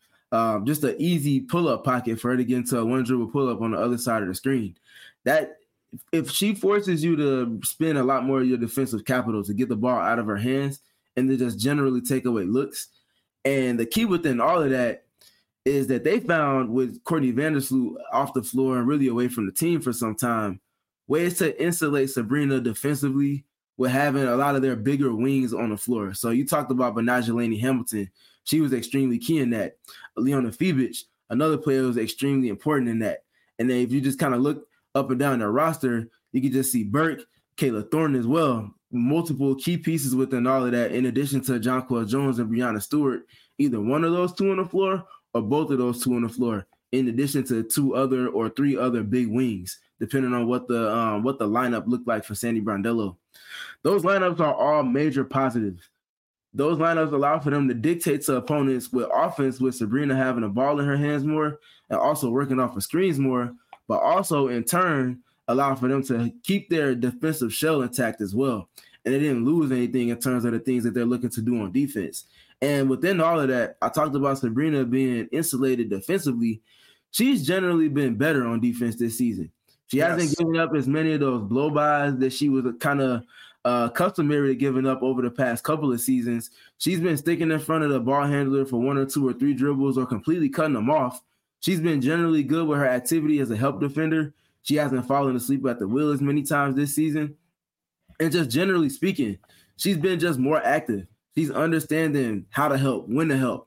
just an easy pull-up pocket for her to get into a one-dribble pull-up on the other side of the screen. That if she forces you to spend a lot more of your defensive capital to get the ball out of her hands and to just generally take away looks. And the key within all of that is that they found with Courtney Vandersloot off the floor and really away from the team for some time, ways to insulate Sabrina defensively with having a lot of their bigger wings on the floor. So you talked about Benajelani Hamilton. She was extremely key in that. Leona Fibic, another player who was extremely important in that. And then if you just kind of look up and down their roster, you can just see Burke, Kayla Thornton as well. Multiple key pieces within all of that, in addition to Jonquel Jones and Breanna Stewart, either one of those two on the floor or both of those two on the floor, in addition to 2 other or 3 other big wings, depending on what the lineup looked like for Sandy Brondello. Those lineups are all major positives. Those lineups allow for them to dictate to opponents with offense, with Sabrina having the ball in her hands more and also working off of screens more, but also in turn allow for them to keep their defensive shell intact as well. And they didn't lose anything in terms of the things that they're looking to do on defense. And within all of that, I talked about Sabrina being insulated defensively. She's generally been better on defense this season. She hasn't given up as many of those blow-bys that she was kind of customary to giving up over the past couple of seasons. She's been sticking in front of the ball handler for 1 or 2 or 3 dribbles or completely cutting them off. She's been generally good with her activity as a help defender. She hasn't fallen asleep at the wheel as many times this season. And just generally speaking, she's been just more active. She's understanding how to help, when to help,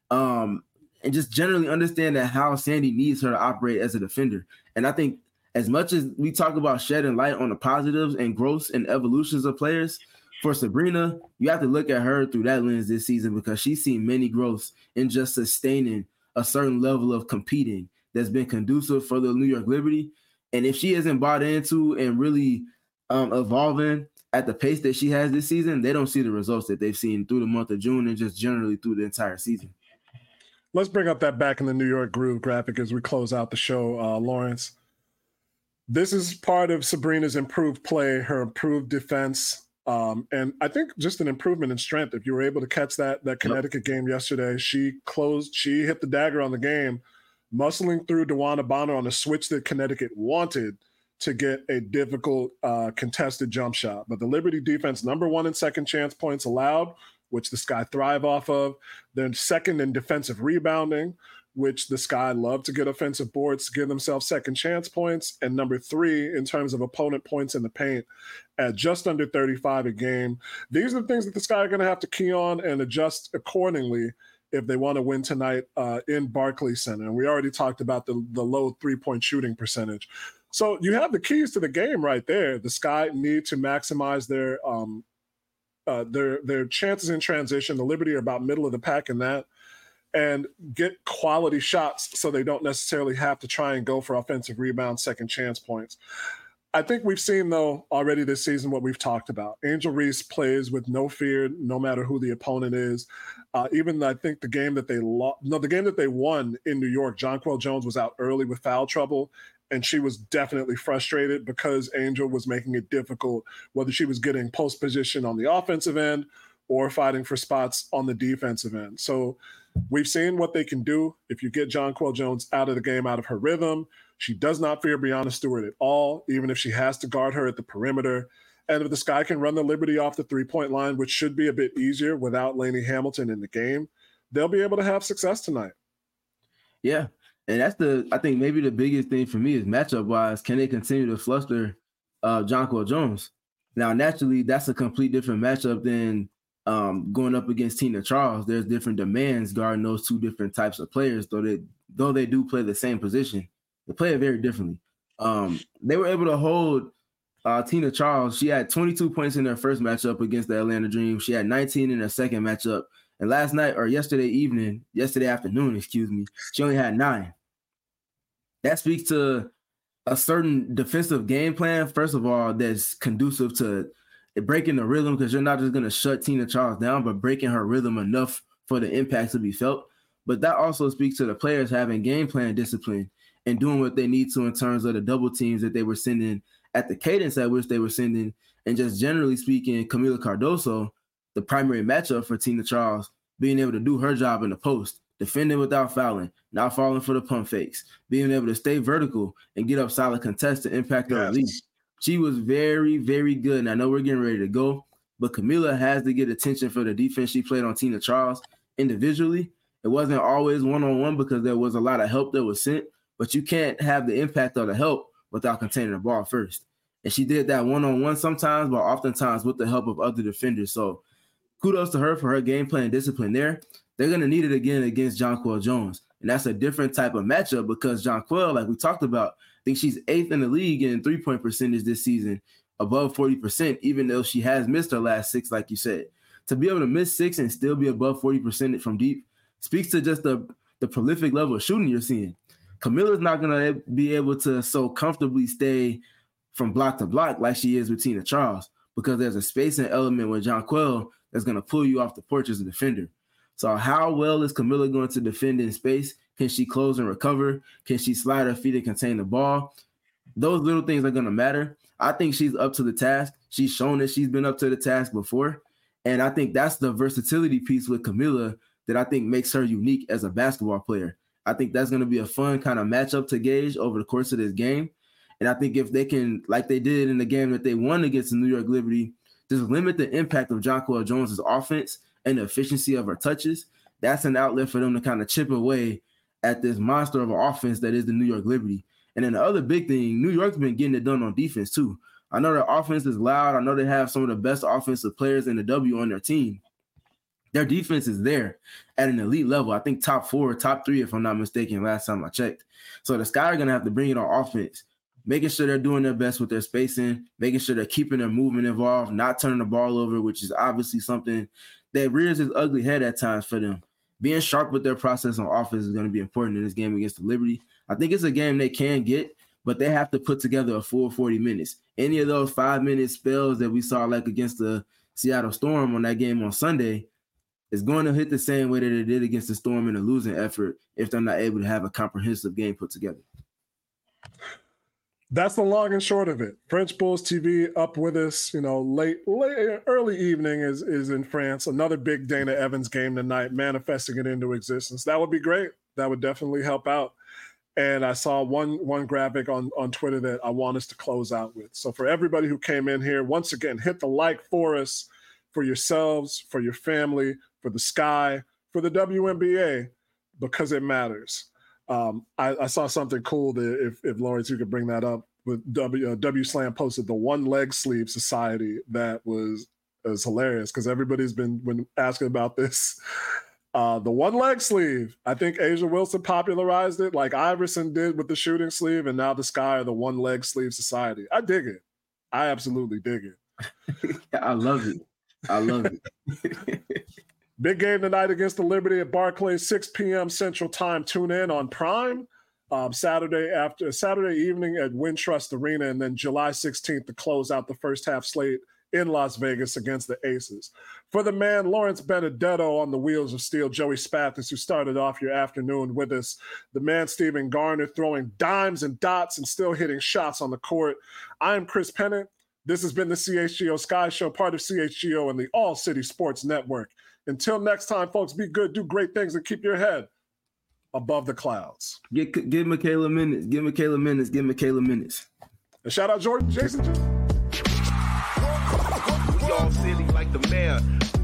and just generally understanding how Sandy needs her to operate as a defender. And I think as much as we talk about shedding light on the positives and growths and evolutions of players, for Sabrina, you have to look at her through that lens this season because she's seen many growths in just sustaining a certain level of competing that's been conducive for the New York Liberty. And if she isn't bought into and really evolving at the pace that she has this season, they don't see the results that they've seen through the month of June and just generally through the entire season. Let's bring up that Back in the New York Groove graphic as we close out the show, Lawrence. This is part of Sabrina's improved play, her improved defense, and I think just an improvement in strength. If you were able to catch that Connecticut game yesterday, she hit the dagger on the game, muscling through DeWanna Bonner on a switch that Connecticut wanted to get a difficult contested jump shot. But the Liberty defense, number 1 in second chance points allowed, which the Sky thrive off of. Then second in defensive rebounding, which the Sky love to get offensive boards to give themselves second chance points. And number 3 in terms of opponent points in the paint at just under 35 a game. These are the things that the Sky are going to have to key on and adjust accordingly if they want to win tonight in Barclays Center. And we already talked about the low 3-point shooting percentage. So you have the keys to the game right there. The Sky need to maximize their chances in transition. The Liberty are about middle of the pack in that, and get quality shots so they don't necessarily have to try and go for offensive rebounds, second chance points. I think we've seen, though, already this season what we've talked about. Angel Reese plays with no fear, no matter who the opponent is. Even I think the game that they won in New York, Jonquel Jones was out early with foul trouble, and she was definitely frustrated because Angel was making it difficult, whether she was getting post position on the offensive end or fighting for spots on the defensive end. So we've seen what they can do if you get Jonquel Jones out of the game, out of her rhythm. She does not fear Brianna Stewart at all, even if she has to guard her at the perimeter. And if the Sky can run the Liberty off the 3-point line, which should be a bit easier without Lainey Hamilton in the game, they'll be able to have success tonight. Yeah. And that's I think maybe the biggest thing for me is matchup-wise, can they continue to fluster Jonquel Jones? Now, naturally, that's a complete different matchup than going up against Tina Charles. There's different demands guarding those two different types of players, though they do play the same position. They play it very differently. They were able to hold Tina Charles. She had 22 points in their first matchup against the Atlanta Dream. She had 19 in her second matchup. And yesterday afternoon, she only had 9. That speaks to a certain defensive game plan, first of all, that's conducive to breaking the rhythm, because you're not just going to shut Tina Charles down, but breaking her rhythm enough for the impact to be felt. But that also speaks to the players having game plan discipline and doing what they need to in terms of the double teams that they were sending at the cadence at which they were sending. And just generally speaking, Camila Cardoso, the primary matchup for Tina Charles, being able to do her job in the post, defending without fouling, not falling for the pump fakes, being able to stay vertical and get up solid contests to impact her lead. She was very, very good. And I know we're getting ready to go, but Camila has to get attention for the defense she played on Tina Charles individually. It wasn't always one-on-one because there was a lot of help that was sent, but you can't have the impact of the help without containing the ball first. And she did that one-on-one sometimes, but oftentimes with the help of other defenders. So kudos to her for her game plan discipline there. They're going to need it again against Jonquel Jones. And that's a different type of matchup because Jonquel, like we talked about, I think she's 8th in the league in 3-point percentage this season, above 40%, even though she has missed her last 6, like you said. To be able to miss 6 and still be above 40% from deep speaks to just the prolific level of shooting you're seeing. Camilla's not going to be able to so comfortably stay from block to block like she is with Tina Charles because there's a spacing element with Jonquel that's going to pull you off the porch as a defender. So how well is Camila going to defend in space? Can she close and recover? Can she slide her feet and contain the ball? Those little things are going to matter. I think she's up to the task. She's shown that she's been up to the task before. And I think that's the versatility piece with Camila that I think makes her unique as a basketball player. I think that's going to be a fun kind of matchup to gauge over the course of this game. And I think if they can, like they did in the game that they won against the New York Liberty, just limit the impact of Jonquel Jones' offense and the efficiency of her touches, that's an outlet for them to kind of chip away at this monster of an offense that is the New York Liberty. And then the other big thing, New York's been getting it done on defense too. I know their offense is loud. I know they have some of the best offensive players in the W on their team. Their defense is there at an elite level. I think top 4 or top 3, if I'm not mistaken, last time I checked. So the Sky are going to have to bring it on offense, making sure they're doing their best with their spacing, making sure they're keeping their movement involved, not turning the ball over, which is obviously something that rears its ugly head at times for them. Being sharp with their process on offense is going to be important in this game against the Liberty. I think it's a game they can get, but they have to put together a full 40 minutes. Any of those 5-minute spells that we saw like against the Seattle Storm on that game on Sunday is going to hit the same way that it did against the Storm in a losing effort if they're not able to have a comprehensive game put together. That's the long and short of it. French Bulls TV up with us, late early evening is in France. Another big Dana Evans game tonight, manifesting it into existence. That would be great. That would definitely help out. And I saw one graphic on Twitter that I want us to close out with. So for everybody who came in here, once again, hit the like for us, for yourselves, for your family, for the Sky, for the WNBA, because it matters. I saw something cool that if Lawrence, you could bring that up, with W Slam posted the One Leg Sleeve Society. That was hilarious because everybody's been asking about this. The one leg sleeve, I think A'ja Wilson popularized it like Iverson did with the shooting sleeve, and now the Sky are the One Leg Sleeve Society. I dig it. I absolutely dig it. I love it. Big game tonight against the Liberty at Barclays, 6 p.m. Central Time. Tune in on Prime. Saturday evening at Wintrust Arena, and then July 16th to close out the first half slate in Las Vegas against the Aces. For the man, Lawrence Benedetto on the wheels of steel, Joey Spathis, who started off your afternoon with us, the man Stephen Garner throwing dimes and dots and still hitting shots on the court. I am Chris Pennant. This has been the CHGO Sky Show, part of CHGO and the All City Sports Network. Until next time, folks, be good, do great things, and keep your head above the clouds. Give Michaela minutes. Give Michaela minutes. And shout out Jason. We all silly like the mayor.